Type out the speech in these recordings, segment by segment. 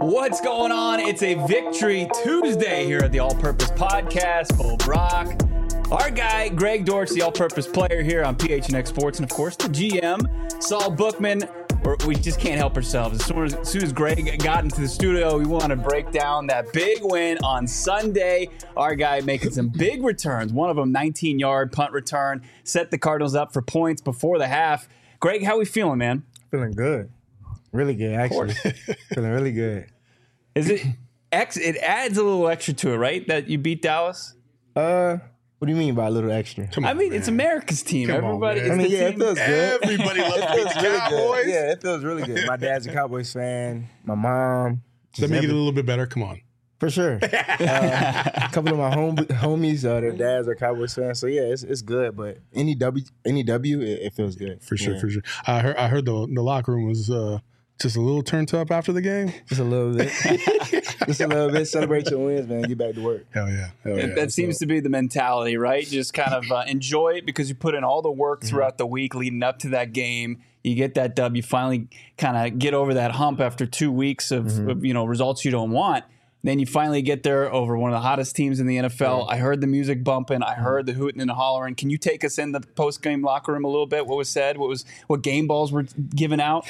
What's going on? It's a Victory Tuesday here at the All Purpose Podcast. Bo Brock, our guy, Greg Dortch, the All Purpose player here on PHNX Sports, and of course the GM, Saul Bookman. We just can't help ourselves. As soon as Greg got into the studio, we want to break down that big win on Sunday. Our guy making some big returns. One of them, 19-yard punt return, set the Cardinals up for points before the half. Greg, how we feeling, man? Feeling good. Really good, actually. Feeling really good. Is it? It adds a little extra to it, right? That you beat Dallas. What do you mean by a little extra? It's America's team. Everybody. It feels good. Everybody loves to beat the Cowboys. Yeah, it feels really good. My dad's a Cowboys fan. My mom. Does that make it a little bit better? Come on. For sure. A couple of my homies, their dads are Cowboys fans. So, yeah, it's good. But any W, it feels good. For sure. I heard the locker room was just a little turned up after the game. Just a little bit. Just a little bit. Celebrate your wins, man. Get back to work. Hell yeah. That seems to be the mentality, right? Just kind of enjoy it because you put in all the work throughout the week leading up to that game. You get that dub. You finally kind of get over that hump after 2 weeks of results you don't want. Then you finally get there over one of the hottest teams in the NFL. I heard the music bumping. I heard the hooting and the hollering. Can you take us in the post-game locker room a little bit? What was said? What game balls were given out?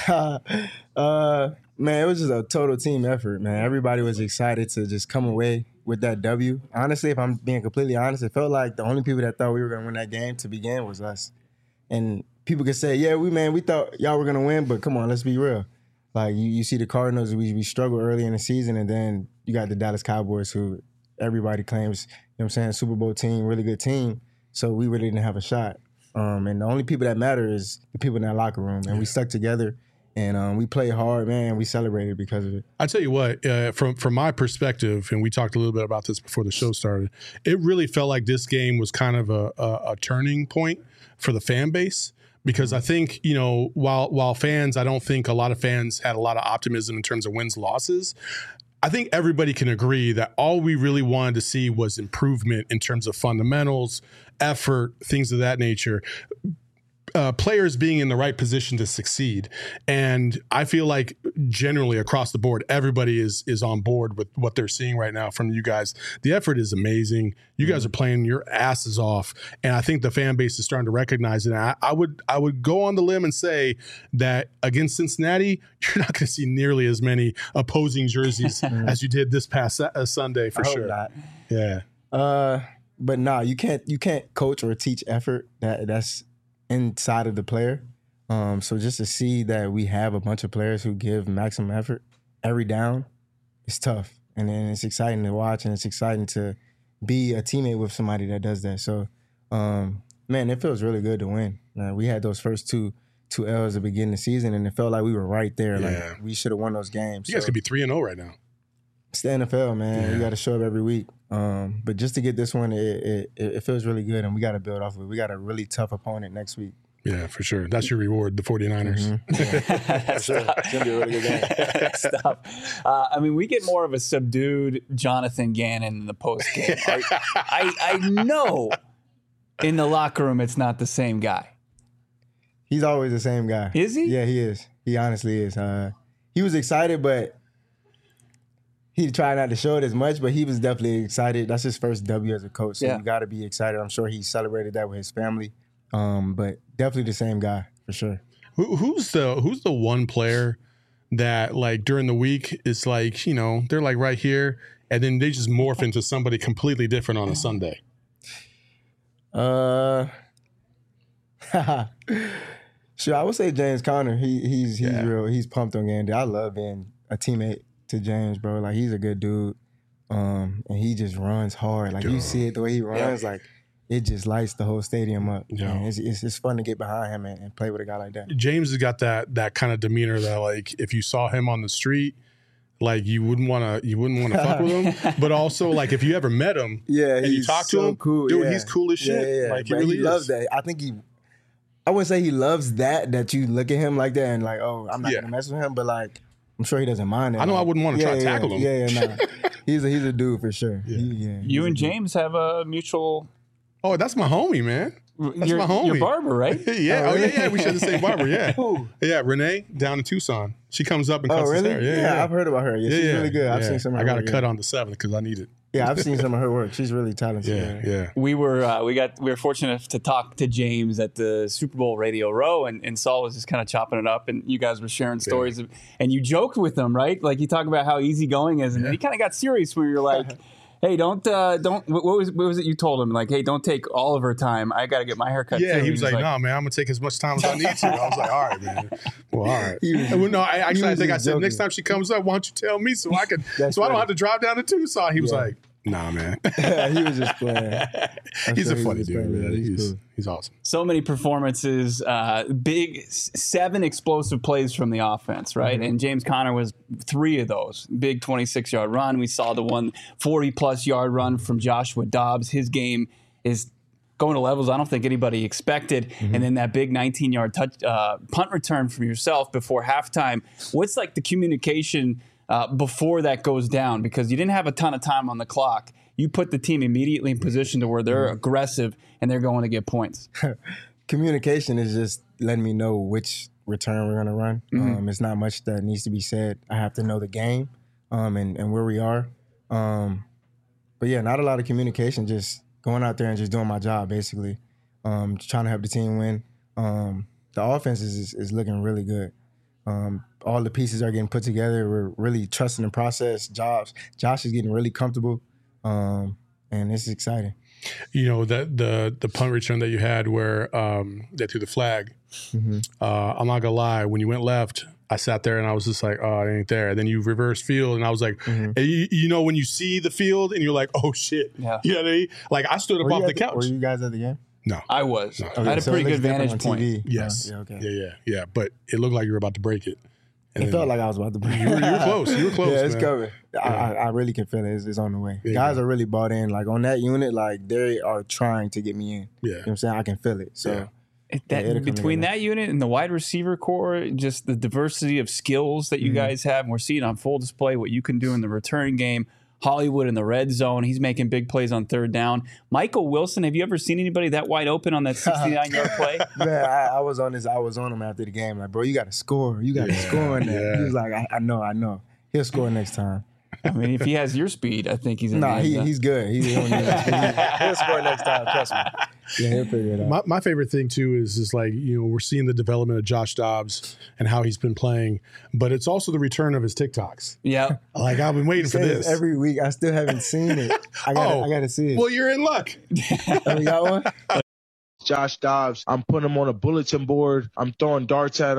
Man, it was just a total team effort, man. Everybody was excited to just come away with that W. Honestly, if I'm being completely honest, it felt like the only people that thought we were going to win that game to begin was us. And people could say, yeah, we thought y'all were going to win, but come on, let's be real. Like, you see the Cardinals, we struggled early in the season, and then you got the Dallas Cowboys, who everybody claims, Super Bowl team, really good team. So we really didn't have a shot. And the only people that matter is the people in that locker room. And we stuck together, and we played hard, man. We celebrated because of it. I tell you what, from my perspective, and we talked a little bit about this before the show started, it really felt like this game was kind of a turning point for the fan base. Because I think, while fans, I don't think a lot of fans had a lot of optimism in terms of wins, losses. I think everybody can agree that all we really wanted to see was improvement in terms of fundamentals, effort, things of that nature. Players being in the right position to succeed. And I feel like generally across the board, everybody is on board with what they're seeing right now from you guys. The effort is amazing. You guys are playing your asses off. And I think the fan base is starting to recognize it. And I would go on the limb and say that against Cincinnati, you're not going to see nearly as many opposing jerseys as you did this past Sunday for sure. Not. Yeah. But no, you can't coach or teach effort. That's inside of the player. So just to see that we have a bunch of players who give maximum effort every down, it's tough. And then it's exciting to watch, and it's exciting to be a teammate with somebody that does that. So, man, it feels really good to win. We had those first two L's at the beginning of the season, and it felt like we were right there. Yeah. Like, we should have won those games. You guys could be 3-0 right now. It's the NFL, man. Yeah. You got to show up every week. But just to get this one, it feels really good, and we got to build off of it. We got a really tough opponent next week. Yeah, for sure. That's your reward, the 49ers. Yeah. Sure. It's going to be a really good game. Stop. We get more of a subdued Jonathan Gannon in the post game. I know in the locker room it's not the same guy. He's always the same guy. Is he? Yeah, he is. He honestly is. He was excited, but he tried not to show it as much, but he was definitely excited. That's his first W as a coach, so you got to be excited. I'm sure he celebrated that with his family. But definitely the same guy for sure. Who's the one player that, like, during the week is like, they're like right here, and then they just morph into somebody completely different on a Sunday? Sure, I would say James Conner. He's real. He's pumped on game day. I love being a teammate to James, bro. Like, he's a good dude, and he just runs hard. Like, you see it the way he runs, like, it just lights the whole stadium up. Yeah. It's fun to get behind him and play with a guy like that. James has got that kind of demeanor that, like, if you saw him on the street, like, you wouldn't want to fuck with him. But also, like, if you ever met him, and you talk to him, cool. Dude, he's cool as shit. Yeah. Like, he really loves that. I think I wouldn't say he loves that you look at him like that and like, oh, I'm not gonna mess with him, but like, I'm sure he doesn't mind it. I know I wouldn't want to try to tackle him. Yeah. He's a dude for sure. You and James have a mutual. Oh, that's my homie, man. That's my homie. Your barber, right? Yeah. Oh, yeah. We share the same barber. Yeah. Yeah. Renee down in Tucson. She comes up and cuts his hair. Yeah, I've heard about her. Yeah, she's really good. I've seen some of her I got work, a cut on the 7th because I need it. Yeah, I've seen some of her work. She's really talented. Yeah. We were fortunate to talk to James at the Super Bowl Radio Row, and Saul was just kind of chopping it up, and you guys were sharing stories, and you joked with him, right? Like you talk about how easygoing is, and then he kind of got serious where you're like, "Hey, don't. What was it you told him? Like, hey, don't take all of her time. I got to get my hair cut." Yeah, too. he was like, "No, man, I'm gonna take as much time as I need to." I was like, "All right, man. Well, all right." I think I said next time she comes up, why don't you tell me so I don't have to drive down to Tucson. He was like, "Nah, man." He was just playing. He's a funny dude, man. He's awesome. So many performances, big 7 explosive plays from the offense, right? And James Conner was 3 of those. Big 26-yard run. We saw the 40-plus yard run from Joshua Dobbs. His game is going to levels I don't think anybody expected. And then that big 19-yard punt return from yourself before halftime. What's like the communication before that goes down? Because you didn't have a ton of time on the clock. You put the team immediately in position to where they're aggressive and they're going to get points. Communication is just letting me know which return we're going to run. It's not much that needs to be said. I have to know the game and where we are. But yeah, not a lot of communication, just going out there and just doing my job, basically. Trying to help the team win. The offense is looking really good. All the pieces are getting put together. We're really trusting the process. Josh is getting really comfortable. And it's exciting. You know, that the punt return that you had where they threw the flag. I'm not gonna lie, when you went left, I sat there and I was just like, oh, it ain't there. And then you reverse field and I was like, you know, when you see the field and you're like, oh shit. Yeah. You know what I mean? Like I stood up off the couch. Were you guys at the game? No. I was. No. I had a pretty good vantage point. TV. Yes. Yeah. But it looked like you were about to break it. It felt like I was about to break it. You were close. Yeah, it's coming. I really can feel it. It's on the way. Guys are really bought in. Like on that unit, like they are trying to get me in. Yeah. You know what I'm saying? I can feel it. So between that unit and the wide receiver core, just the diversity of skills that you guys have, and we're seeing on full display what you can do in the return game. Hollywood in the red zone. He's making big plays on 3rd down. Michael Wilson, have you ever seen anybody that wide open on that 69-yard play? Man, I was on him after the game. Like, bro, you got to score. You got to score in that. He was like, I know. He'll score next time. I mean, if he has your speed, I think he's in the he's good. He'll score next time. Trust me. Yeah, he'll figure it out. My favorite thing too is like, you know, we're seeing the development of Josh Dobbs and how he's been playing, but it's also the return of his TikToks. Yeah, like I've been waiting for this every week. I still haven't seen it. I got to see it. Well, you're in luck. Oh, you got one? Josh Dobbs, I'm putting him on a bulletin board. I'm throwing darts at him.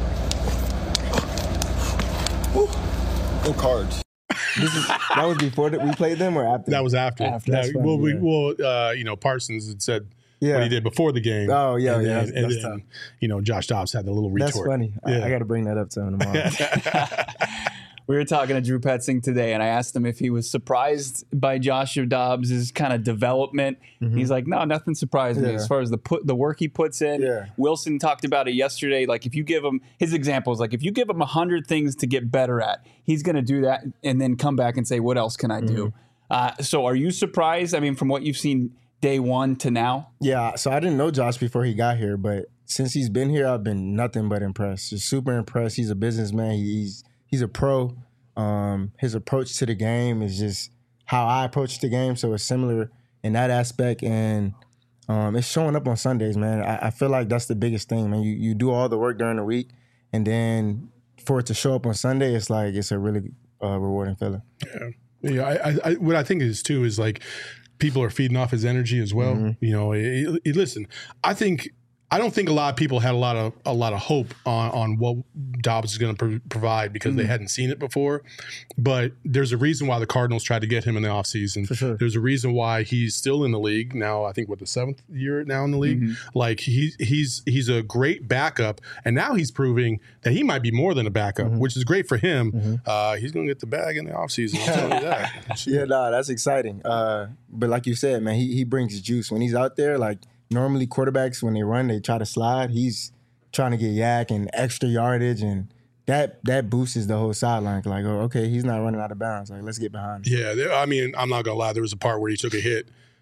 No cards. That was before we played them or after? That was after. You know, Parsons had said what he did before the game. Oh, yeah, and yeah. Then, that's tough. You know, Josh Dobbs had the little retort. That's funny. Yeah. I got to bring that up to him tomorrow. We were talking to Drew Petzing today, and I asked him if he was surprised by Joshua Dobbs' kind of development. He's like, no, nothing surprised me as far as the work he puts in. Yeah. Wilson talked about it yesterday. Like, if you give him his examples, like if you give him 100 things to get better at, he's going to do that and then come back and say, what else can I do? So are you surprised? I mean, from what you've seen day one to now? Yeah. So I didn't know Josh before he got here, but since he's been here, I've been nothing but impressed. Just super impressed. He's a businessman. He's a pro. His approach to the game is just how I approach the game, so it's similar in that aspect, and it's showing up on Sundays, man. I feel like that's the biggest thing, man. You do all the work during the week, and then for it to show up on Sunday, it's like it's a really rewarding feeling. Yeah. I what I think is too is like people are feeding off his energy as well. You know, listen, I don't think a lot of people had a lot of hope on what Dobbs is going to provide because they hadn't seen it before. But there's a reason why the Cardinals tried to get him in the offseason. For sure. There's a reason why he's still in the league now. I think the 7th year now in the league. Like he's a great backup, and now he's proving that he might be more than a backup, which is great for him. He's going to get the bag in the offseason. I'll tell you that. Yeah, that's exciting. But like you said, man, he brings juice when he's out there. Like. Normally, quarterbacks, when they run, they try to slide. He's trying to get yak and extra yardage, and that boosts the whole sideline. Like, oh, okay, he's not running out of bounds. Like, let's get behind him. Yeah, I mean, I'm not going to lie. There was a part where he took a hit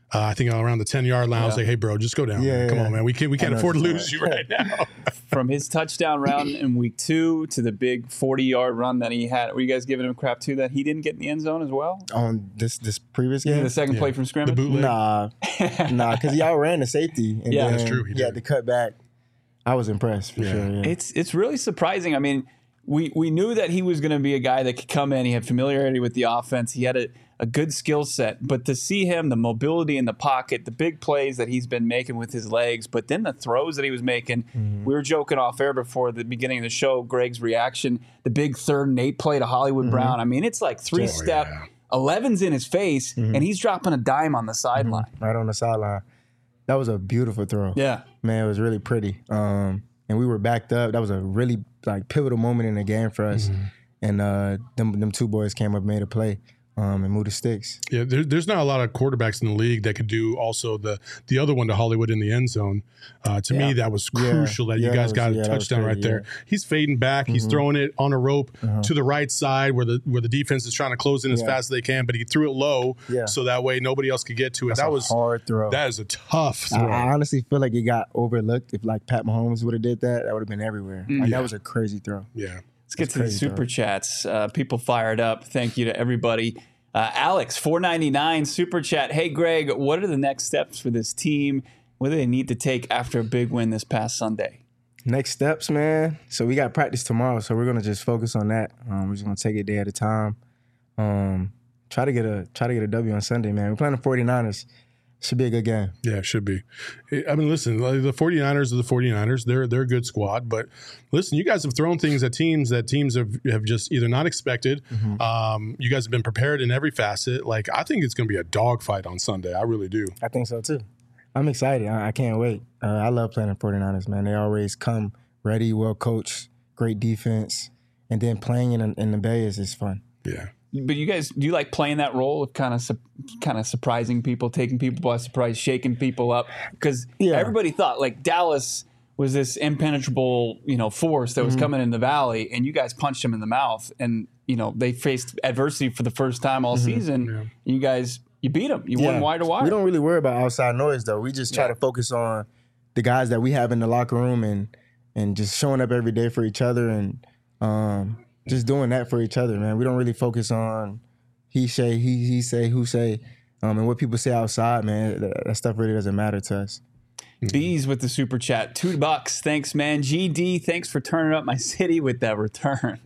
I think around the 10-yard line. I was like, hey, bro, just go down. Yeah, man. Come yeah. on, man. We can't afford to lose you right now. From his touchdown run in week 2 to the big 40-yard run that he had, were you guys giving him crap too that he didn't get in the end zone as well? On this previous game? The second play from The scrimmage? bootleg. Nah, because he outran the safety. And Yeah. then That's true, he He had did. to cut back. I was impressed for sure. Yeah. It's really surprising. I mean, we knew that he was going to be a guy that could come in. He had familiarity with the offense. He had a good skill set. But to see him, the mobility in the pocket, the big plays that he's been making with his legs, but then the throws that he was making, we were joking off air before the beginning of the show, Greg's reaction, the big 3rd and 8 play to Hollywood Brown. I mean, it's like 3-step, yeah. 11's in his face, and he's dropping a dime on the sideline. Right on the sideline. That was a beautiful throw. Yeah. Man, it was really pretty. And we were backed up. That was a really pivotal moment in the game for us. And them 2 boys came up, made a play, and moved the sticks. Yeah, there's not a lot of quarterbacks in the league that could do also the other one to Hollywood in the end zone. To me, that was crucial that you guys got a touchdown right there. He's fading back. He's throwing it on a rope to the right side where the defense is trying to close in as fast as they can, but he threw it low so that way nobody else could get to it. That was a hard throw. That is a tough throw. I honestly feel like it got overlooked. If Pat Mahomes would have did that, that would have been everywhere. That was a crazy throw. Yeah. Let's get to the super chats. People fired up. Thank you to everybody. Alex, $4.99 super chat. Hey, Greg, what are the next steps for this team? What do they need to take after a big win this past Sunday? Next steps, man. So we got practice tomorrow, so we're gonna just focus on that. We're just gonna take it day at a time. Try to get a W on Sunday, man. We're playing the 49ers. Should be a good game. Yeah, it should be. I mean, listen, like the 49ers are the 49ers. They're a good squad. But listen, you guys have thrown things at teams that teams have just either not expected. You guys have been prepared in every facet. Like, I think it's going to be a dogfight on Sunday. I really do. I think so, too. I'm excited. I can't wait. I love playing the 49ers, man. They always come ready, well coached, great defense. And then playing in the Bay is fun. Yeah. But you guys, do you like playing that role of kind of surprising people, taking people by surprise, shaking people up? Because everybody thought like Dallas was this impenetrable, force that was coming in the valley, and you guys punched them in the mouth, and they faced adversity for the first time all season. Yeah. You beat them. You won wire to wire. We don't really worry about outside noise though. We just try to focus on the guys that we have in the locker room and just showing up every day for each other and just doing that for each other, man. We don't really focus on he say, who say, and what people say outside, man. That stuff really doesn't matter to us. Bees with the super chat, $2. Thanks, man. GD, thanks for turning up my city with that return.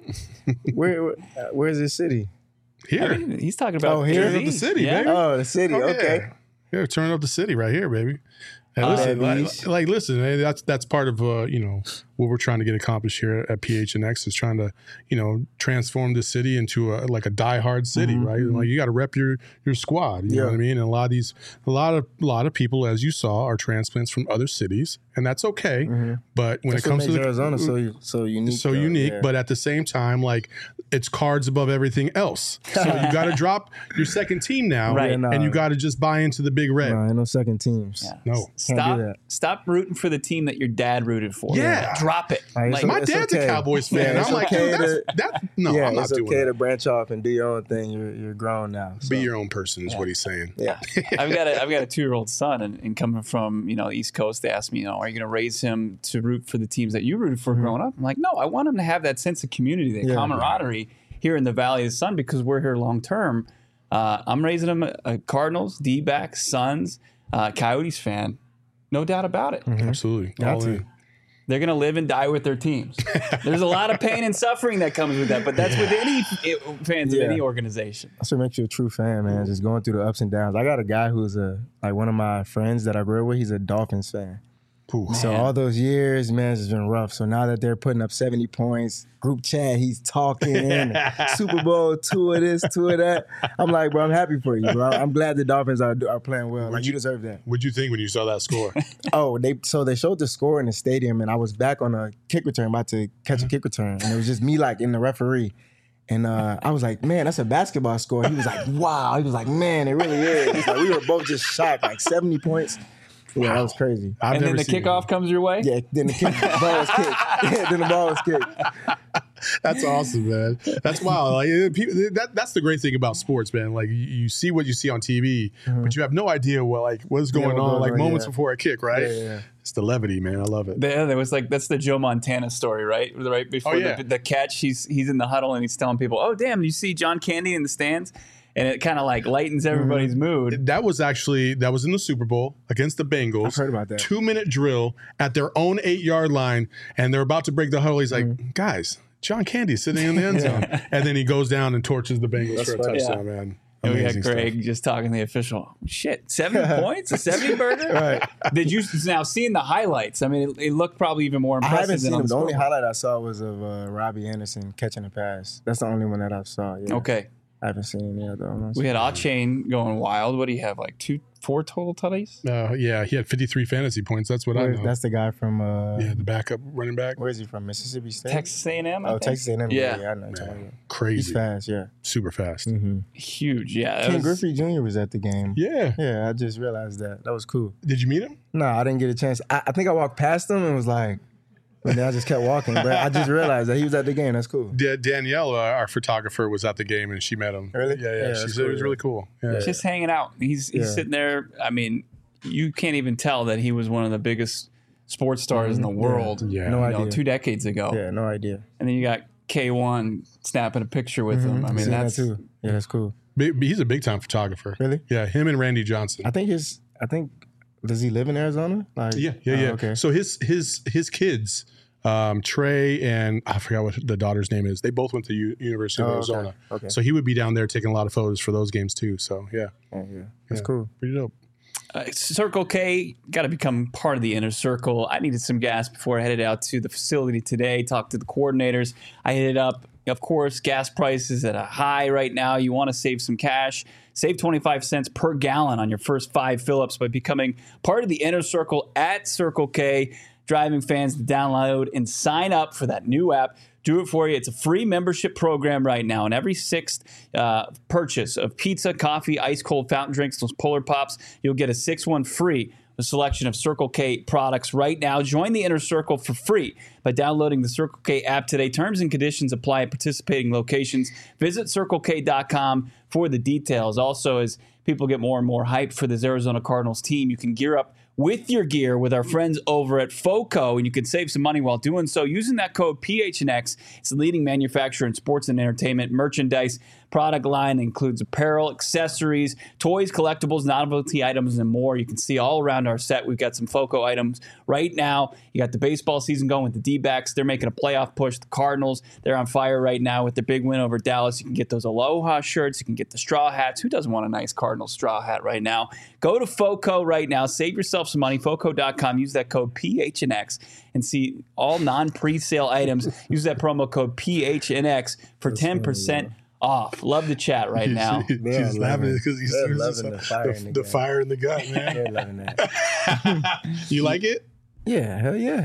Where's this city? Here. I mean, he's talking about here? Turning up the city, baby. Oh, the city. Okay. Yeah, turning up the city right here, baby. Hey, listen, listen. Hey, that's part of what we're trying to get accomplished here at PHNX is trying to transform the city into a diehard city, right? Like you got to rep your squad. You know what I mean? And a lot of people, as you saw, are transplants from other cities, and that's okay. But when it comes to Arizona, so unique, but at the same time, like it's cards above everything else. So you got to drop your second team now, Right. and you got to just buy into the big red. No, ain't no second teams. Yeah. No. Stop rooting for the team that your dad rooted for. Yeah. Drop it. Like, My it's dad's okay. a Cowboys fan. Yeah, I'm like, okay dude, I'm not it's doing okay that. to branch off and do your own thing. You're grown now. So. Be your own person is what he's saying. Yeah. I've got a 2-year-old son, and coming from the East Coast, they asked me, are you going to raise him to root for the teams that you rooted for growing up? I'm like, no, I want him to have that sense of community, that camaraderie here in the Valley of the Sun because we're here long term. I'm raising him a Cardinals, D-backs, Suns, Coyotes fan, no doubt about it. Absolutely. All in. They're going to live and die with their teams. There's a lot of pain and suffering that comes with that, but that's with any fans of any organization. That's what makes you a true fan, man. Just going through the ups and downs. I got a guy who's one of my friends that I grew up with. He's a Dolphins fan. So all those years, man, it's been rough. So now that they're putting up 70 points, group chat, he's talking, Super Bowl, 2 of this, 2 of that. I'm like, bro, I'm happy for you, bro. I'm glad the Dolphins are playing well. Like, you deserve that. What'd you think when you saw that score? They showed the score in the stadium, and I was back on a kick return, about to catch a kick return, and it was just me, like, in the referee. And I was like, man, that's a basketball score. He was like, wow. He was like, man, it really is. He's like, we were both just shocked, like 70 points. Yeah, that was crazy. And then the kickoff comes your way? Yeah, then the ball was kicked. Yeah, then the ball was kicked. That's awesome, man. That's wild. Like that's the great thing about sports, man. Like you see what you see on TV, but you have no idea what's going on. Like moments before a kick, right? Yeah. It's the levity, man. I love it. There was that's the Joe Montana story, right? Right before the catch, he's in the huddle and he's telling people, "Oh, damn, you see John Candy in the stands." And it kind of like lightens everybody's mood. That was in the Super Bowl against the Bengals. I've heard about that. 2-minute drill at their own 8-yard line, and they're about to break the huddle. He's like, guys, John Candy's sitting in the end zone. And then he goes down and torches the Bengals for a touchdown, man. And we got Greg just talking to the official. Shit, 7 points? A 70 burger? Right. Did you now seeing the highlights? I mean, it looked probably even more impressive. I haven't seen than him. The only scoreboard. highlight I saw was of Robbie Anderson catching a pass. That's the only one that I saw. Yeah. Okay. I haven't seen any other ones. We had Achane going wild. What do you have, like 4 total tutties? Yeah, he had 53 fantasy points. That's what I know. That's the guy from the backup running back. Where is he from? Mississippi State? Texas A&M? Oh, Texas A&M. Yeah. I know. Man, crazy. He's fast, yeah. Super fast. Huge, yeah. Ken Griffey Jr. was at the game. Yeah. Yeah, I just realized that. That was cool. Did you meet him? No, I didn't get a chance. I think I walked past him and was like, but then I just kept walking. But I just realized that he was at the game. That's cool. Danielle, our photographer, was at the game and she met him. Really? Yeah. She said it was really cool. Yeah. Just hanging out. He's sitting there. I mean, you can't even tell that he was one of the biggest sports stars in the world. Yeah. No idea. 2 decades ago. Yeah, no idea. And then you got K1 snapping a picture with him. I mean, Seen that's that too. Yeah, that's cool. He's a big time photographer. Really? Yeah, him and Randy Johnson. I think does he live in Arizona? Like, Yeah. Okay. So his kids, Trey and I forgot what the daughter's name is. They both went to University of Arizona. Okay. So he would be down there taking a lot of photos for those games too. So yeah, That's cool. pretty dope. Circle K got to become part of the inner circle. I needed some gas before I headed out to the facility today, talked to the coordinators. I hit it up. Of course, gas prices at a high right now. You want to save some cash. Save 25 cents per gallon on your first 5 fill-ups by becoming part of the inner circle at Circle K. Driving fans to download and sign up for that new app. Do it for you. It's a free membership program right now. And every 6th purchase of pizza, coffee, ice cold fountain drinks, those Polar Pops, you'll get a 6th one free. A selection of Circle K products right now. Join the Inner Circle for free by downloading the Circle K app today. Terms and conditions apply at participating locations. Visit CircleK.com for the details. Also, as people get more and more hyped for this Arizona Cardinals team, you can gear up with your gear with our friends over at FOCO, and you can save some money while doing so using that code PHNX. It's the leading manufacturer in sports and entertainment merchandise. Product line includes apparel, accessories, toys, collectibles, novelty items, and more. You can see all around our set. We've got some FOCO items right now. You got the baseball season going with the D-backs. They're making a playoff push. The Cardinals, they're on fire right now with their big win over Dallas. You can get those Aloha shirts. You can get the straw hats. Who doesn't want a nice Cardinals straw hat right now? Go to FOCO right now. Save yourself some money. FOCO.com. Use that code PHNX and see all non-presale items. Use that promo code PHNX for 10% off. Love the chat right now. He's laughing because he's loving the fire in the gut, man. They're loving that. You like it? Yeah, hell yeah.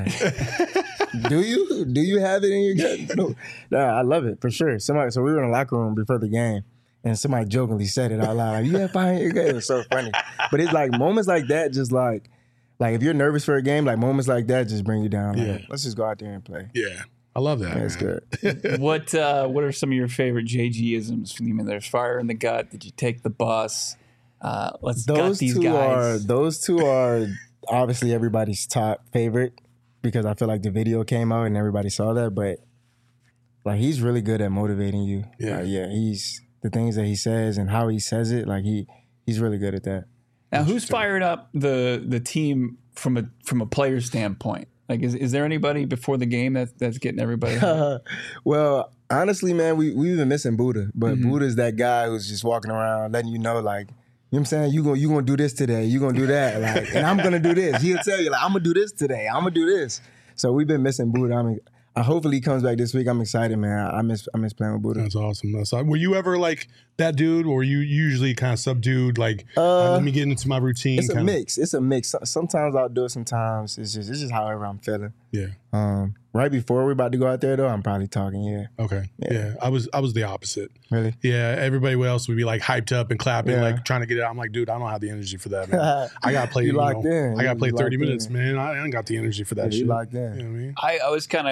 Do you have it in your gut? No, I love it for sure. So we were in the locker room before the game, and somebody jokingly said it out loud, like, "You have fire in your gut." It was so funny. But it's like moments like that, just like if you're nervous for a game, like moments like that just bring you down. Like, let's just go out there and play. Yeah. I love that. That's good. What are some of your favorite JG-isms? I mean, there's fire in the gut. Did you take the bus? Let's gut these guys. Those two are obviously everybody's top favorite because I feel like the video came out and everybody saw that. But like he's really good at motivating you. Yeah, He's the things that he says and how he says it. Like he's really good at that. Now, who's fired up the team from a player standpoint? Like, is there anybody before the game that's getting everybody? Well, honestly, man, we've been missing Buddha. But Buddha's that guy who's just walking around letting you know, like, you know what I'm saying? You gonna do this today. You gonna do that. Like, and I'm gonna do this. He'll tell you, like, I'm gonna do this today. I'm gonna do this. So we've been missing Buddha. Hopefully he comes back this week. I'm excited, man. I miss playing with Buddha. That's awesome. Were you ever like that dude, or were you usually kind of subdued? Like, let me get into my routine. It's a mix. It's a mix. Sometimes I'll do it. Sometimes it's just however I'm feeling. Yeah. Right before we're about to go out there, though, I'm probably talking. Yeah. Okay. Yeah. I was the opposite. Really? Yeah. Everybody else would be like hyped up and clapping, like trying to get it out. I'm like, dude, I don't have the energy for that, man. I gotta play. You locked in. I gotta play 30 locked minutes, in. man. I ain't got the energy for that shit. You locked in. You know what I mean? I was kind of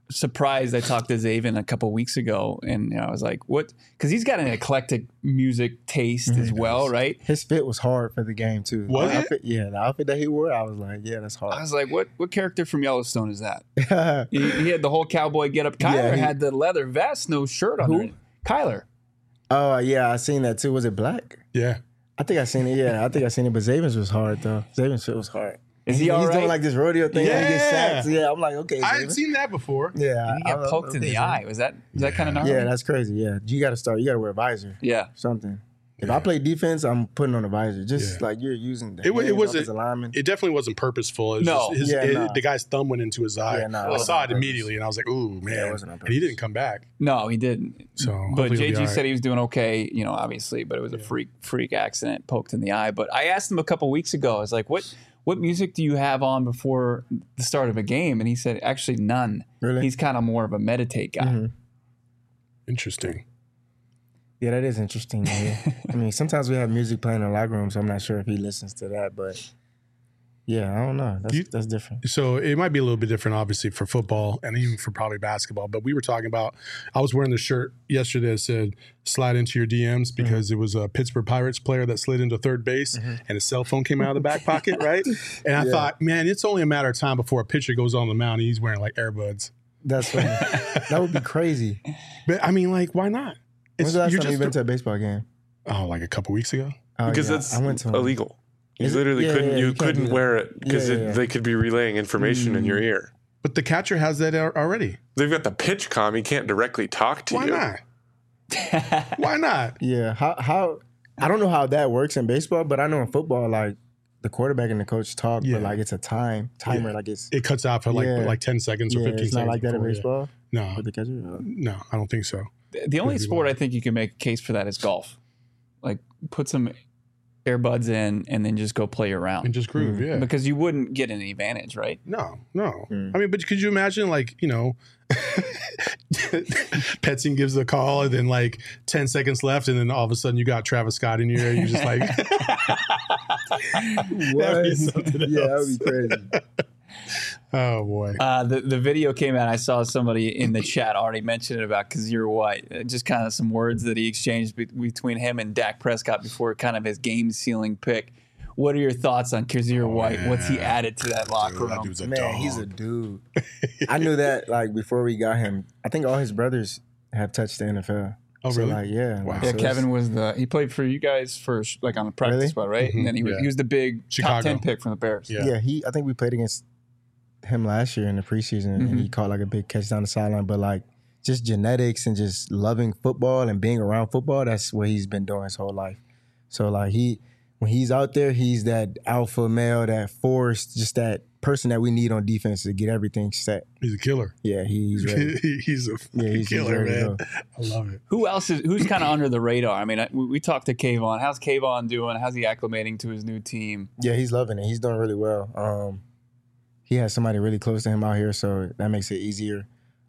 surprised. I talked to Zaven a couple weeks ago, and I was like, "What?" Because he's got an eclectic music taste as well, right? His fit was hard for the game too. Was the it? outfit, yeah, the outfit that he wore, I was like, yeah, that's I hard. was like, "What character from Yellowstone is that?" He had the whole cowboy get up. Kyler had the leather vest, no shirt under it. Kyler. Oh yeah, I seen that too. Was it black? Yeah. I think I seen it. Yeah, I think I seen it. But Zaven's was hard though. Zaven's fit was hard. Is he all He's right? doing like this rodeo thing. Yeah, he gets Yeah. sacked. Yeah, I'm like, okay, I Zaven. had seen that before. Yeah, He got poked in the eye. Was that kind of gnarly? Yeah, that's crazy. Yeah, you got to start. You got to wear a visor. Yeah. Something. If I play defense, I'm putting on a visor. Just like you're using the It wasn't. lineman. It definitely wasn't purposeful. It was No. just the guy's thumb went into his eye. Yeah, no, it I wasn't saw on it purpose. immediately, and I was like, "Ooh, man!" it wasn't on And he purpose. didn't come back. No, he didn't. So, but hopefully he'll be JG all right. said he was doing okay, obviously, but it was a freak accident, poked in the eye. But I asked him a couple weeks ago, I was like, what music do you have on before the start of a game? And he said, actually, none. Really? He's kind of more of a meditate guy. Interesting. Yeah, that is interesting. Yeah. I mean, sometimes we have music playing in the locker room, so I'm not sure if he listens to that. But yeah, I don't know. That's different. So it might be a little bit different, obviously, for football and even for probably basketball. But we were talking about, I was wearing the shirt yesterday that said, slide into your DMs, because it was a Pittsburgh Pirates player that slid into third base and his cell phone came out of the back pocket, right? And I thought, man, it's only a matter of time before a pitcher goes on the mound and he's wearing like earbuds. That's funny. That would be crazy. But I mean, like, why not? When's the last time you've been to a baseball game? Oh, like a couple weeks ago. Oh, Because yeah, it's I went to one. illegal. You Is it? literally Yeah, couldn't. yeah, you you can't do couldn't that. wear it because Yeah. they could be relaying information in your ear. But the catcher has that already. They've got the pitch comm. He can't directly talk to Why you. not? Why not? Yeah, how I don't know how that works in baseball, but I know in football, like the quarterback and the coach talk, Yeah. but like it's a timer, like it's It cuts out for like 10 seconds or 15 it's seconds. not like that in before, yeah. baseball No, with the catcher. no, I don't think so. The only Could be sport wild. I think you can make a case for that is golf. Like, put some earbuds in and then just go play around. And just groove, yeah. Because you wouldn't get any advantage, right? No. I mean, but could you imagine, like, Petson gives the call and then like 10 seconds left and then all of a sudden you got Travis Scott in your ear. You're just like, What? be something Yeah, that else. would be crazy. oh boy. The video came out. I saw somebody in the chat already mention it about Kazir White. Just kind of some words that he exchanged between him and Dak Prescott before kind of his game sealing pick. What are your thoughts on Kazir White? What's he added to that locker Dude, that room? dude's a Man, dog. he's a dude. I knew that like before we got him. I think all his brothers have touched the NFL. Oh, So really? like, yeah. Wow. like, Yeah, so Kevin was he played for you guys first, like on the practice Really? spot, right? And then he was the big Chicago. top 10 pick from the Bears. Yeah. Yeah, I think we played against him last year in the preseason, and he caught like a big catch down the sideline. But like, just genetics and just loving football and being around football, that's what he's been doing his whole life. So like when he's out there, he's that alpha male, that force, just that person that we need on defense to get everything set. He's a killer. Yeah, he's ready. he's a fucking he's killer, ready to man. go. I love it. Who's kind of under the radar? I mean, we talked to Kayvon. How's Kayvon doing? How's he acclimating to his new team? Yeah, he's loving it. He's doing really well. He has somebody really close to him out here, so that makes it easier.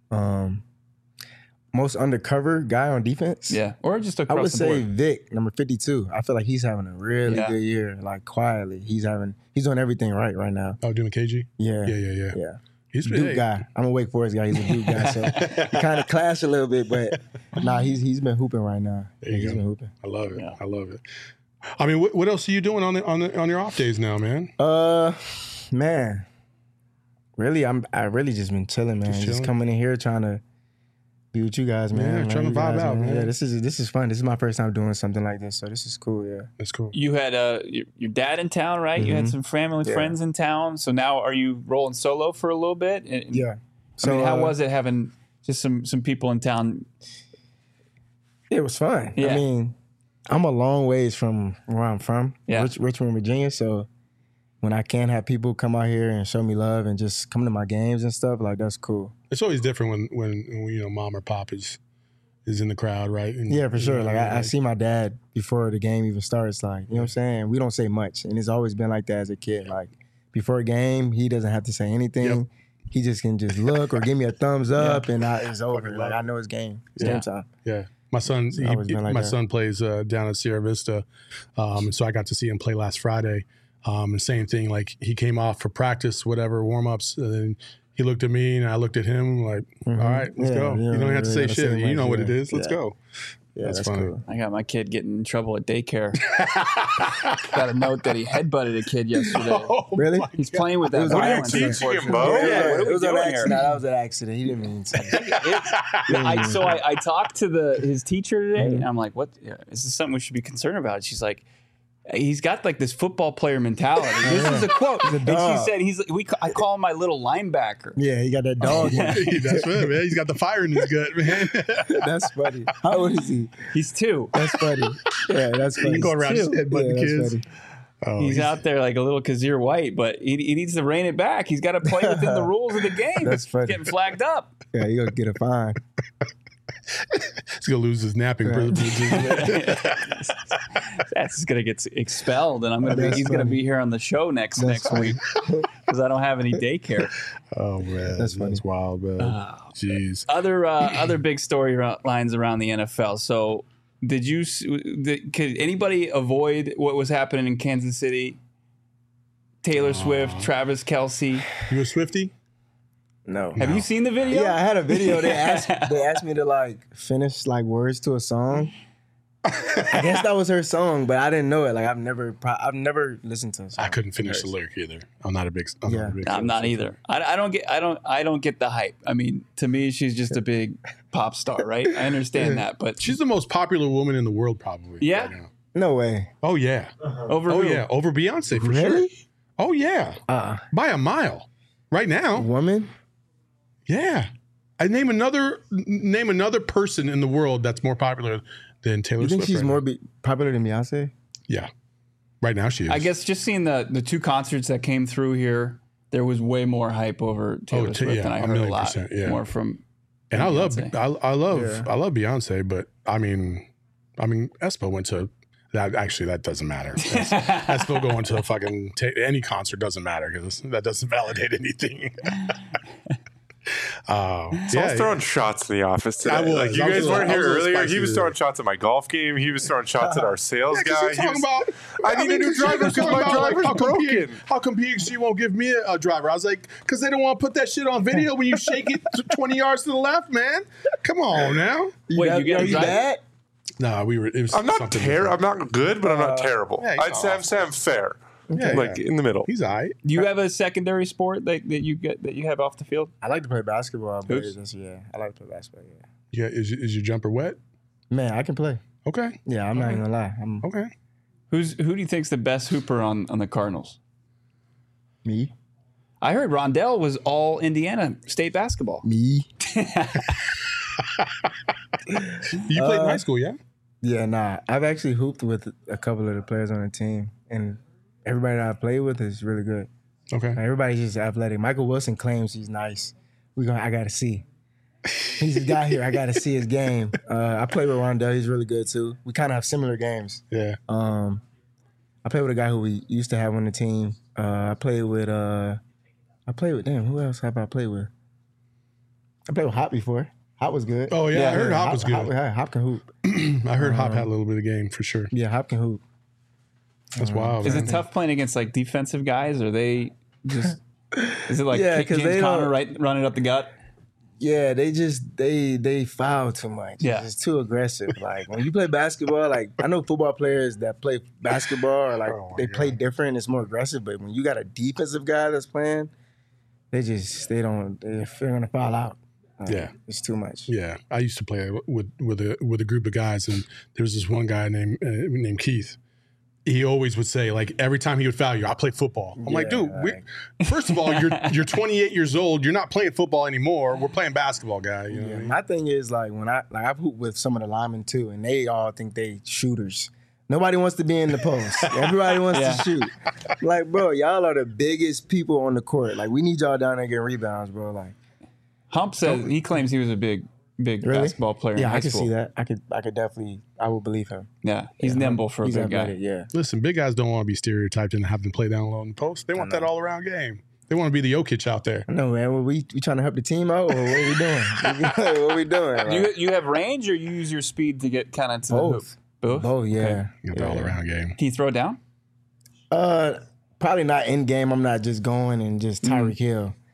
Most undercover guy on defense? Yeah, or just across I would the say board. Vic, number 52. I feel like he's having a really Yeah. good year, like quietly. He's doing everything right now. Oh, doing KG? Yeah. Yeah. He's Duke been guy. I'm a Wake Forest guy. He's a Duke guy, so we kind of clash a little bit, but he's been hooping right now. There you He's go. been hooping. I love it. Yeah. I love it. I mean, what else are you doing on your off days now, man? Man, really, I really just been chilling, man. Just Just chilling? coming in here trying to be with you guys, man. Yeah, trying to You vibe guys, out, man. Yeah, this is fun. This is my first time doing something like this, so this is cool. Yeah. That's cool. You had your dad in town, right? You had some family, Yeah. friends in town. So now are you rolling solo for a little bit? And, Yeah. I mean, how was it having just some people in town? It was fun. Yeah. I mean, I'm a long ways from where I'm from, Yeah. Richmond, Virginia. So when I can have people come out here and show me love and just come to my games and stuff, like that's cool. It's always different when mom or pop is in the crowd, right? And, Yeah, for sure. Like I see my dad before the game even starts. Like, you know what I'm saying? We don't say much, and it's always been like that as a kid. Like before a game, he doesn't have to say anything. Yep. He just can just look or give me a thumbs up, and it's over. Like I know it's game. It's game time. Yeah. My son, always been like my that. son plays down at Sierra Vista, and so I got to see him play last Friday. And same thing, like he came off for practice, whatever warm ups, and then He looked at me and I looked at him like, all right, let's go. You don't have to say shit. You know what it is. Let's go. Yeah, that's funny. cool. I got my kid getting in trouble at daycare. Got a note that he headbutted a kid yesterday. Really? He's playing with that was an violence. accident. Teaching him, Bo? Yeah, what are we it was an doing accident. here? That was an accident. He didn't mean to. I talked to his teacher today, and I'm like, "What? Is this something we should be concerned about?" She's like, "He's got like this football player mentality." This is a quote, and she dog. said, I call him my little linebacker." Yeah, he got that dog. in him. That's right, man. He's got the fire in his gut, man. That's funny. How old is he? He's 2. That's funny. Yeah, that's funny. You go around just headbutting Yeah, kids. that's funny. Oh, He's out there like a little Kazir White, but he needs to rein it back. He's got to play within the rules of the game. That's funny. Getting flagged up. Yeah, you gonna get a fine. He's gonna lose his napping privileges. That's gonna get expelled, and That's he's gonna funny. be here on the show next week because I don't have any daycare. Oh man, That's funny. That's wild, man. Jeez. Other big storylines around the NFL. So, could anybody avoid what was happening in Kansas City? Taylor Swift, Travis Kelce. You a Swiftie? No. Have you seen the video? Yeah, I had a video. They asked me to like finish like words to a song. I guess that was her song, but I didn't know it. Like I've never listened to a song. I couldn't finish the lyric either. I'm not a big. I'm not either. I don't get the hype. I mean, to me, she's just a big pop star, right? I understand that, but She's the most popular woman in the world, probably. Yeah? Right now. No way. Oh yeah. over Oh who? yeah. Over Beyonce for Really? sure. Oh yeah. By a mile. Right now. Woman? Yeah. I name another person in the world that's more popular than Taylor You think Swift. she's right more now. popular than Beyonce? Yeah. Right now she is. I guess just seeing the 2 concerts that came through here, there was way more hype over Taylor Swift yeah, than I a heard a million lot percent, yeah. more from. And I love Beyonce. I love Beyonce, but I mean Espo went to that. Actually, that doesn't matter. Espo going to a fucking any concert doesn't matter because that doesn't validate anything. So I was throwing shots in the office today. I was. Like you I was guys a little- weren't I here was a little earlier. spicy He was today. throwing shots at my golf game. He was throwing shots at our sales guy. He was, I need a new driver because my driver's broken. How come PXG won't give me a driver? I was like, because they don't want to put that shit on video when you shake it 20 yards to the left, man. Come on now. Wait, you get a you driver? bad? No, it was I'm not something terrible. I'm different. not good, but I'm not terrible. yeah, he's I'd say I'm fair. Yeah, Like yeah. in the middle. He's all right. Do you have a secondary sport that you have off the field? I like to play basketball, but Oops. I like to play basketball, yeah. Yeah, is your jumper wet? Man, I can play. Okay. Yeah, I'm not even gonna lie. I'm Okay. Who do you think's the best hooper on the Cardinals? me. I heard Rondell was all Indiana State basketball. Me. You played in high school, yeah? Yeah, nah. I've actually hooped with a couple of the players on the team, and everybody that I play with is really good. Okay. Like, everybody's just athletic. Michael Wilson claims he's nice. I gotta see. He's a guy here. I gotta see his game. I play with Rondell. He's really good too. We kind of have similar games. Yeah. I play with a guy who we used to have on the team. I played with damn, who else have I played with? I played with Hop before. Hop was good. Oh, yeah, I heard Hop was good. Hop can hoop. I heard Hop had a little bit of game for sure. Yeah, Hop can hoop. That's wild. Is man. it tough playing against like defensive guys? Or they just is it like Yeah, 'cause James they Conner don't- running up the gut? Yeah, they foul too much. Yeah. It's too aggressive. Like when you play basketball, like I know football players that play basketball are like Oh, my they play God. different. It's more aggressive. But when you got a defensive guy that's playing, they're gonna foul out. Yeah. It's too much. Yeah, I used to play with a group of guys, and there was this one guy named Keith. He always would say, like, every time he would foul you, I play football. I'm like, dude, first of all, you're 28 years old. You're not playing football anymore. We're playing basketball, guy. You know what I mean? My thing is like when I've hooped with some of the linemen too, and they all think they shooters. Nobody wants to be in the post. Everybody wants to shoot. Like, bro, y'all are the biggest people on the court. Like, we need y'all down there getting rebounds, bro. Like, Hump says he claims he was a big really? basketball player in Yeah, high I can school. see that. I could definitely. I will believe him. Yeah, he's nimble for a He's big guy. athletic, yeah. Listen, big guys don't want to be stereotyped and have them play down low in the post. They want that all around game. They want to be the Jokic out there. I know, man. We trying to help the team out, or what are we doing? what are we doing? Like, You have range, or you use your speed to get kind of to the hoop? both. Both. Both, yeah. You know, the all around game. Can you throw it down? Probably not in game. I'm not just going and just Tyreek Hill.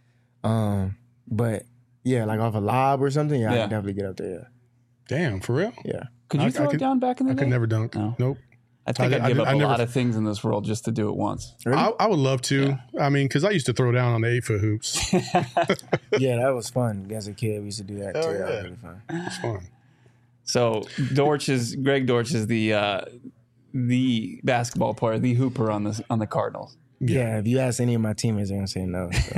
But yeah, like off a lob or something, I Yeah. can definitely get up there. Damn, for real? Yeah. Could you throw it down back in the I day? could never dunk. No. Nope. I think I I'd give up I a never- lot of things in this world just to do it once. Really? I would love to. I mean, because I used to throw down on the 8-foot hoops. Yeah, that was fun. As a kid, we used to do that too. Hell That was yeah. really fun. It's fun. So Greg Dortch is the basketball player, the hooper on the Cardinals. Yeah, if you ask any of my teammates, they're gonna say no. So.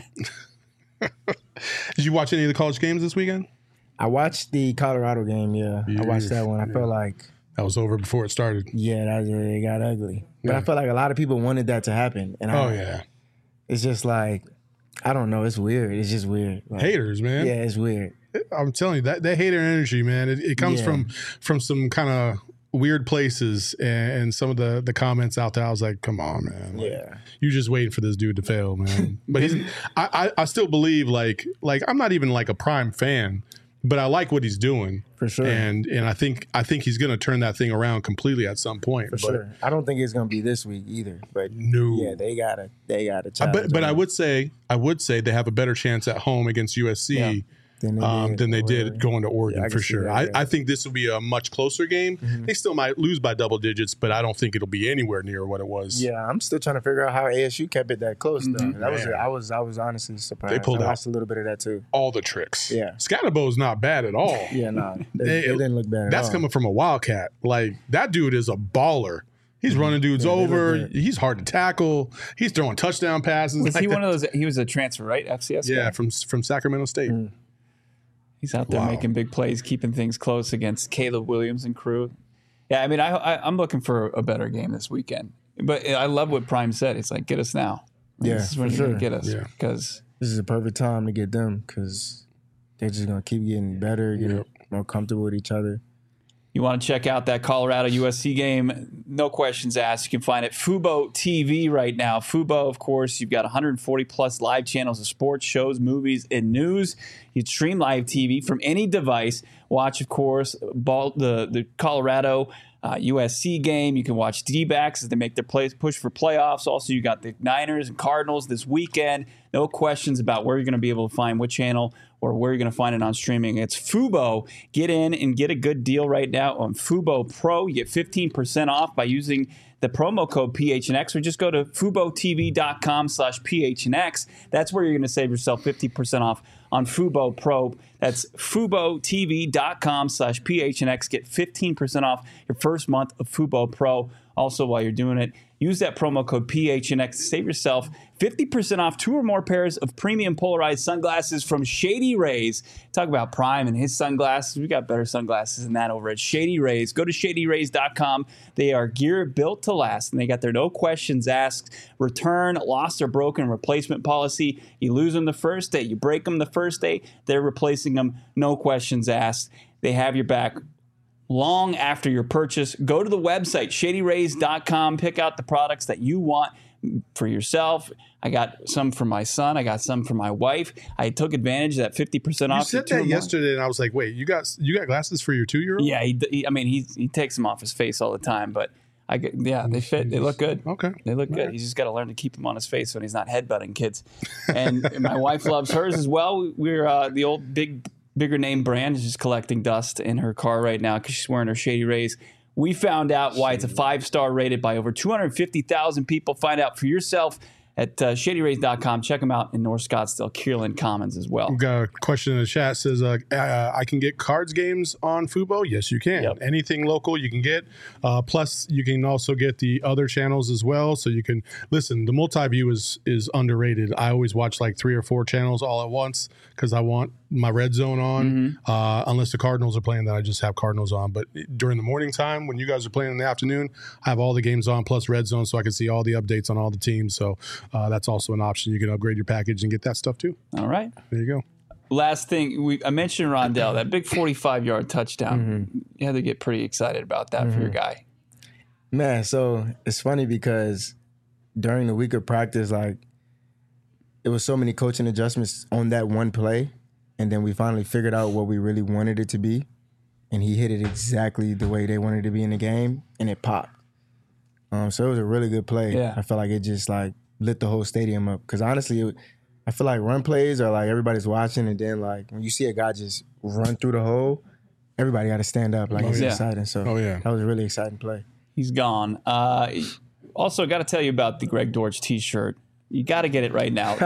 Did you watch any of the college games this weekend? I watched the Colorado game. Yeah, I watched that one. I felt like, That was over before it started. yeah, it got ugly. But Yeah. I felt like a lot of people wanted that to happen, and Oh, yeah. it's just like, I don't know. It's weird. It's just weird. Like, Haters, man. Yeah, it's weird. I'm telling you, that hater energy, man, it comes Yeah. from some kind of weird places, and some of the comments out there, I was like, come on, man. Like, Yeah. you're just waiting for this dude to fail, man. But I still believe, like I'm not even like a prime fan, but I like what he's doing. For sure. And I think he's gonna turn that thing around completely at some point. For sure. I don't think it's gonna be this week either. But No. yeah, they gotta challenge. But I would say they have a better chance at home against USC than they did going to Oregon, I can for see sure. that, yeah. I think this will be a much closer game. They still might lose by double digits, but I don't think it'll be anywhere near what it was. Yeah, I'm still trying to figure out how ASU kept it that close though. That was Man. I was honestly surprised. They pulled I out watched a little bit of that too. all the tricks. Yeah. Scatterbo's not bad at all. Yeah, nah, they didn't look bad at all. That's coming from a Wildcat. Like, that dude is a baller. He's running dudes Yeah, they look over. good. He's hard to tackle. He's throwing touchdown passes. Was like he that. one of those? He was a transfer, right? FCS. Yeah, guy? from Sacramento State. He's out there Wow. making big plays, keeping things close against Caleb Williams and crew. Yeah, I mean, I'm looking for a better game this weekend. But I love what Prime said. It's like, get us now. Like, Yeah, this is when for you're going sure. to get us. Yeah. Because This is a perfect time to get them because they're just gonna keep getting better, getting more comfortable with each other. you want to check out that Colorado USC game, no questions asked. You can find it Fubo TV right now. Fubo, of course, you've got 140 plus live channels of sports, shows, movies, and news. You can stream live TV from any device. Watch, of course, the Colorado USC game. You can watch D-backs as they make their push for playoffs. Also, you got the Niners and Cardinals this weekend. No questions about where you're going to be able to find what channel or where you're going to find it on streaming. It's Fubo. Get in and get a good deal right now on Fubo Pro. You get 15% off by using the promo code PHNX, or just go to FuboTV.com/PHNX. That's where you're going to save yourself 50% off on Fubo Pro. That's FuboTV.com/PHNX. Get 15% off your first month of Fubo Pro. Also, while you're doing it, use that promo code PHNX to save yourself 50% off 2 or more pairs of premium polarized sunglasses from Shady Rays. Talk about Prime and his sunglasses. We got better sunglasses than that over at Shady Rays. Go to ShadyRays.com. They are gear built to last, and they got their no questions asked, return, lost or broken replacement policy. You lose them the first day, you break them the first day, they're replacing them, no questions asked. They have your back long after your purchase. Go to the website, ShadyRays.com. Pick out the products that you want for yourself. I got some for my son. I got some for my wife. I took advantage of that 50% off. You said that yesterday, and I was like, wait, you got glasses for your 2-year-old? Yeah, he takes them off his face all the time, but they fit. They look good. Okay. They look good. He's just got to learn to keep them on his face when he's not headbutting kids. And my wife loves hers as well. We're the old bigger name brand is just collecting dust in her car right now because she's wearing her Shady Rays. We found out why it's a 5-star rated by over 250,000 people. Find out for yourself at ShadyRays.com. Check them out in North Scottsdale, Kierland Commons as well. We've got a question in the chat. Says, I can get cards games on Fubo? Yes, you can. Yep. Anything local you can get. Plus, you can also get the other channels as well. So you can listen. The multi-view is underrated. I always watch like 3 or 4 channels all at once because I want my red zone on. Unless the Cardinals are playing, then I just have Cardinals on. But during the morning time, when you guys are playing in the afternoon, I have all the games on plus red zone so I can see all the updates on all the teams. So that's also an option. You can upgrade your package and get that stuff too. All right. There you go. Last thing, I mentioned Rondell, that big 45-yard touchdown. You had to get pretty excited about that for your guy. Man, so it's funny because during the week of practice, like, it was so many coaching adjustments on that one play, and then we finally figured out what we really wanted it to be, and he hit it exactly the way they wanted it to be in the game, and it popped. So it was a really good play. Yeah. I felt like it just like lit the whole stadium up because honestly, I feel like run plays are like everybody's watching, and then like when you see a guy just run through the hole, everybody got to stand up. Like it's exciting. So that was a really exciting play. He's gone. Also, got to tell you about the Greg Dortch T-shirt. You got to get it right now.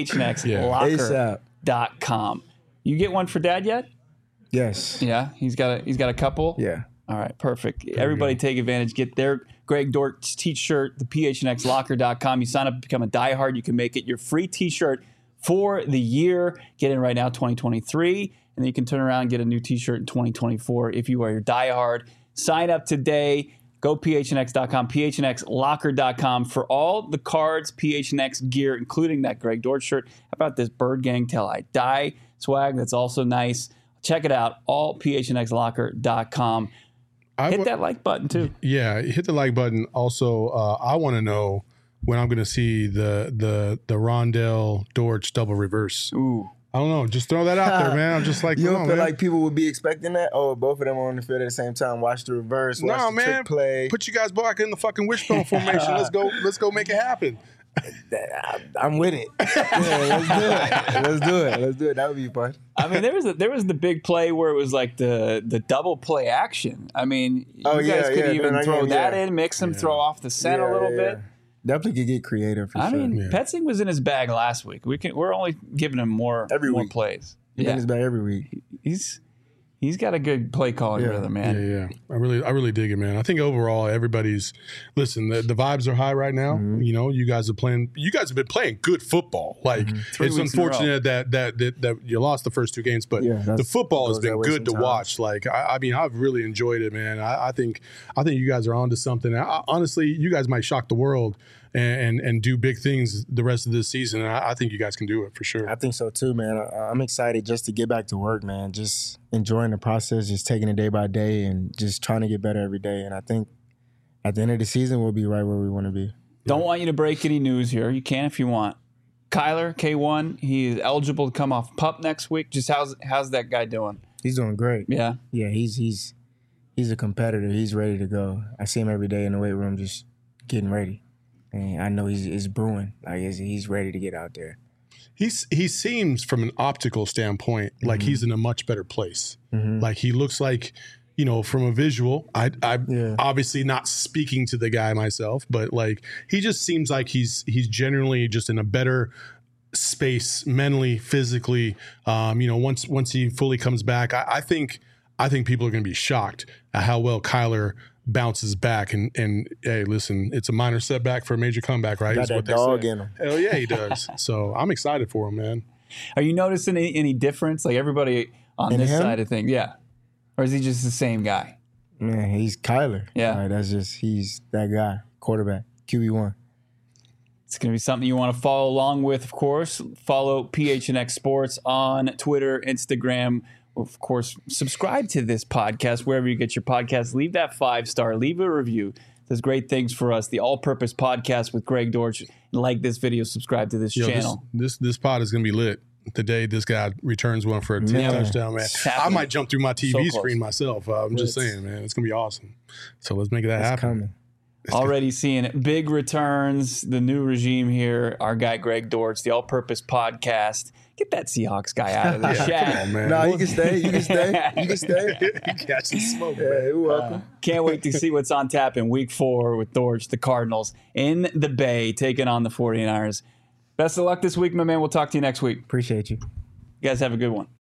PHNXLocker.com. You get one for Dad yet? Yes. Yeah, he's got a couple. Yeah. All right, perfect. Everybody take advantage. Get their Greg Dortch T-shirt, the PHNXLocker.com. You sign up to become a diehard. You can make it your free T-shirt for the year. Get in right now, 2023, and then you can turn around and get a new T-shirt in 2024 if you are your diehard. Sign up today. Go PHNX.com, PHNXLocker.com for all the cards, PHNX gear, including that Greg Dortch shirt. How about this Bird Gang Till I Die swag? That's also nice. Check it out, all PHNXLocker.com. Hit that like button, too. Yeah, hit the like button. Also, I want to know when I'm going to see the Rondell Dortch double reverse. Ooh. I don't know. Just throw that out there, man. I'm just like, you don't feel like people would be expecting that? Oh, both of them are on the field at the same time. Watch the reverse. Watch the trick play. Put you guys back in the fucking wishbone formation. Let's go make it happen. I'm with it. Yeah, let's do it. That would be fun. I mean, there was the big play where it was like the double play action. I mean, you guys could even throw that in, mix them, throw off the set a little bit. Definitely could get creative for sure. I mean, Petzing was in his bag last week. We're only giving him more plays. He's in his bag every week. He's got a good play calling rhythm, man. Yeah. I really dig it, man. I think overall everybody's listen. The vibes are high right now. Mm-hmm. You know, you guys have been playing good football. Like it's unfortunate that you lost the first two games, but the football has been good to watch. Like I mean, I've really enjoyed it, man. I think you guys are onto something. Honestly, you guys might shock the world and do big things the rest of this season. And I think you guys can do it for sure. I think so too, man. I'm excited just to get back to work, man. Just enjoying the process, just taking it day by day and just trying to get better every day. And I think at the end of the season, we'll be right where we want to be. Don't want you to break any news here. You can if you want. Kyler, K1, he is eligible to come off PUP next week. Just how's that guy doing? He's doing great. Yeah? Yeah, he's a competitor. He's ready to go. I see him every day in the weight room just getting ready. And I know he's brewing. Like he's ready to get out there. He seems from an optical standpoint like he's in a much better place. Mm-hmm. Like he looks like, you know, from a visual. I obviously not speaking to the guy myself, but like he just seems like he's generally just in a better space mentally, physically. You know, once he fully comes back, I think people are going to be shocked at how well Kyler bounces back and hey, listen, it's a minor setback for a major comeback, right? Got that dog in him. Hell yeah, he does. So I'm excited for him, man. Are you noticing any difference? Like everybody on this side of things, yeah, or is he just the same guy? Man, he's Kyler. Yeah, he's that guy, quarterback, QB1. It's going to be something you want to follow along with, of course. Follow PHNX Sports on Twitter, Instagram. Of course, subscribe to this podcast wherever you get your podcasts. Leave that 5-star. Leave a review. Does great things for us. The All-Purpose Podcast with Greg Dortch. And like this video, subscribe to this channel. This pod is going to be lit. The day this guy returns one for a touchdown, man. I might jump through my TV screen myself. I'm just saying, man. It's going to be awesome. So let's make that happen. Coming. Already seeing big returns. The new regime here. Our guy Greg Dortch, the All-Purpose Podcast. Get that Seahawks guy out of the chat. Come on, man. No, you can stay. You can stay. You catch the smoke, man. You're welcome. Can't wait to see what's on tap in Week 4 with Dortch, the Cardinals in the Bay, taking on the 49ers. Best of luck this week, my man. We'll talk to you next week. Appreciate you. You guys have a good one.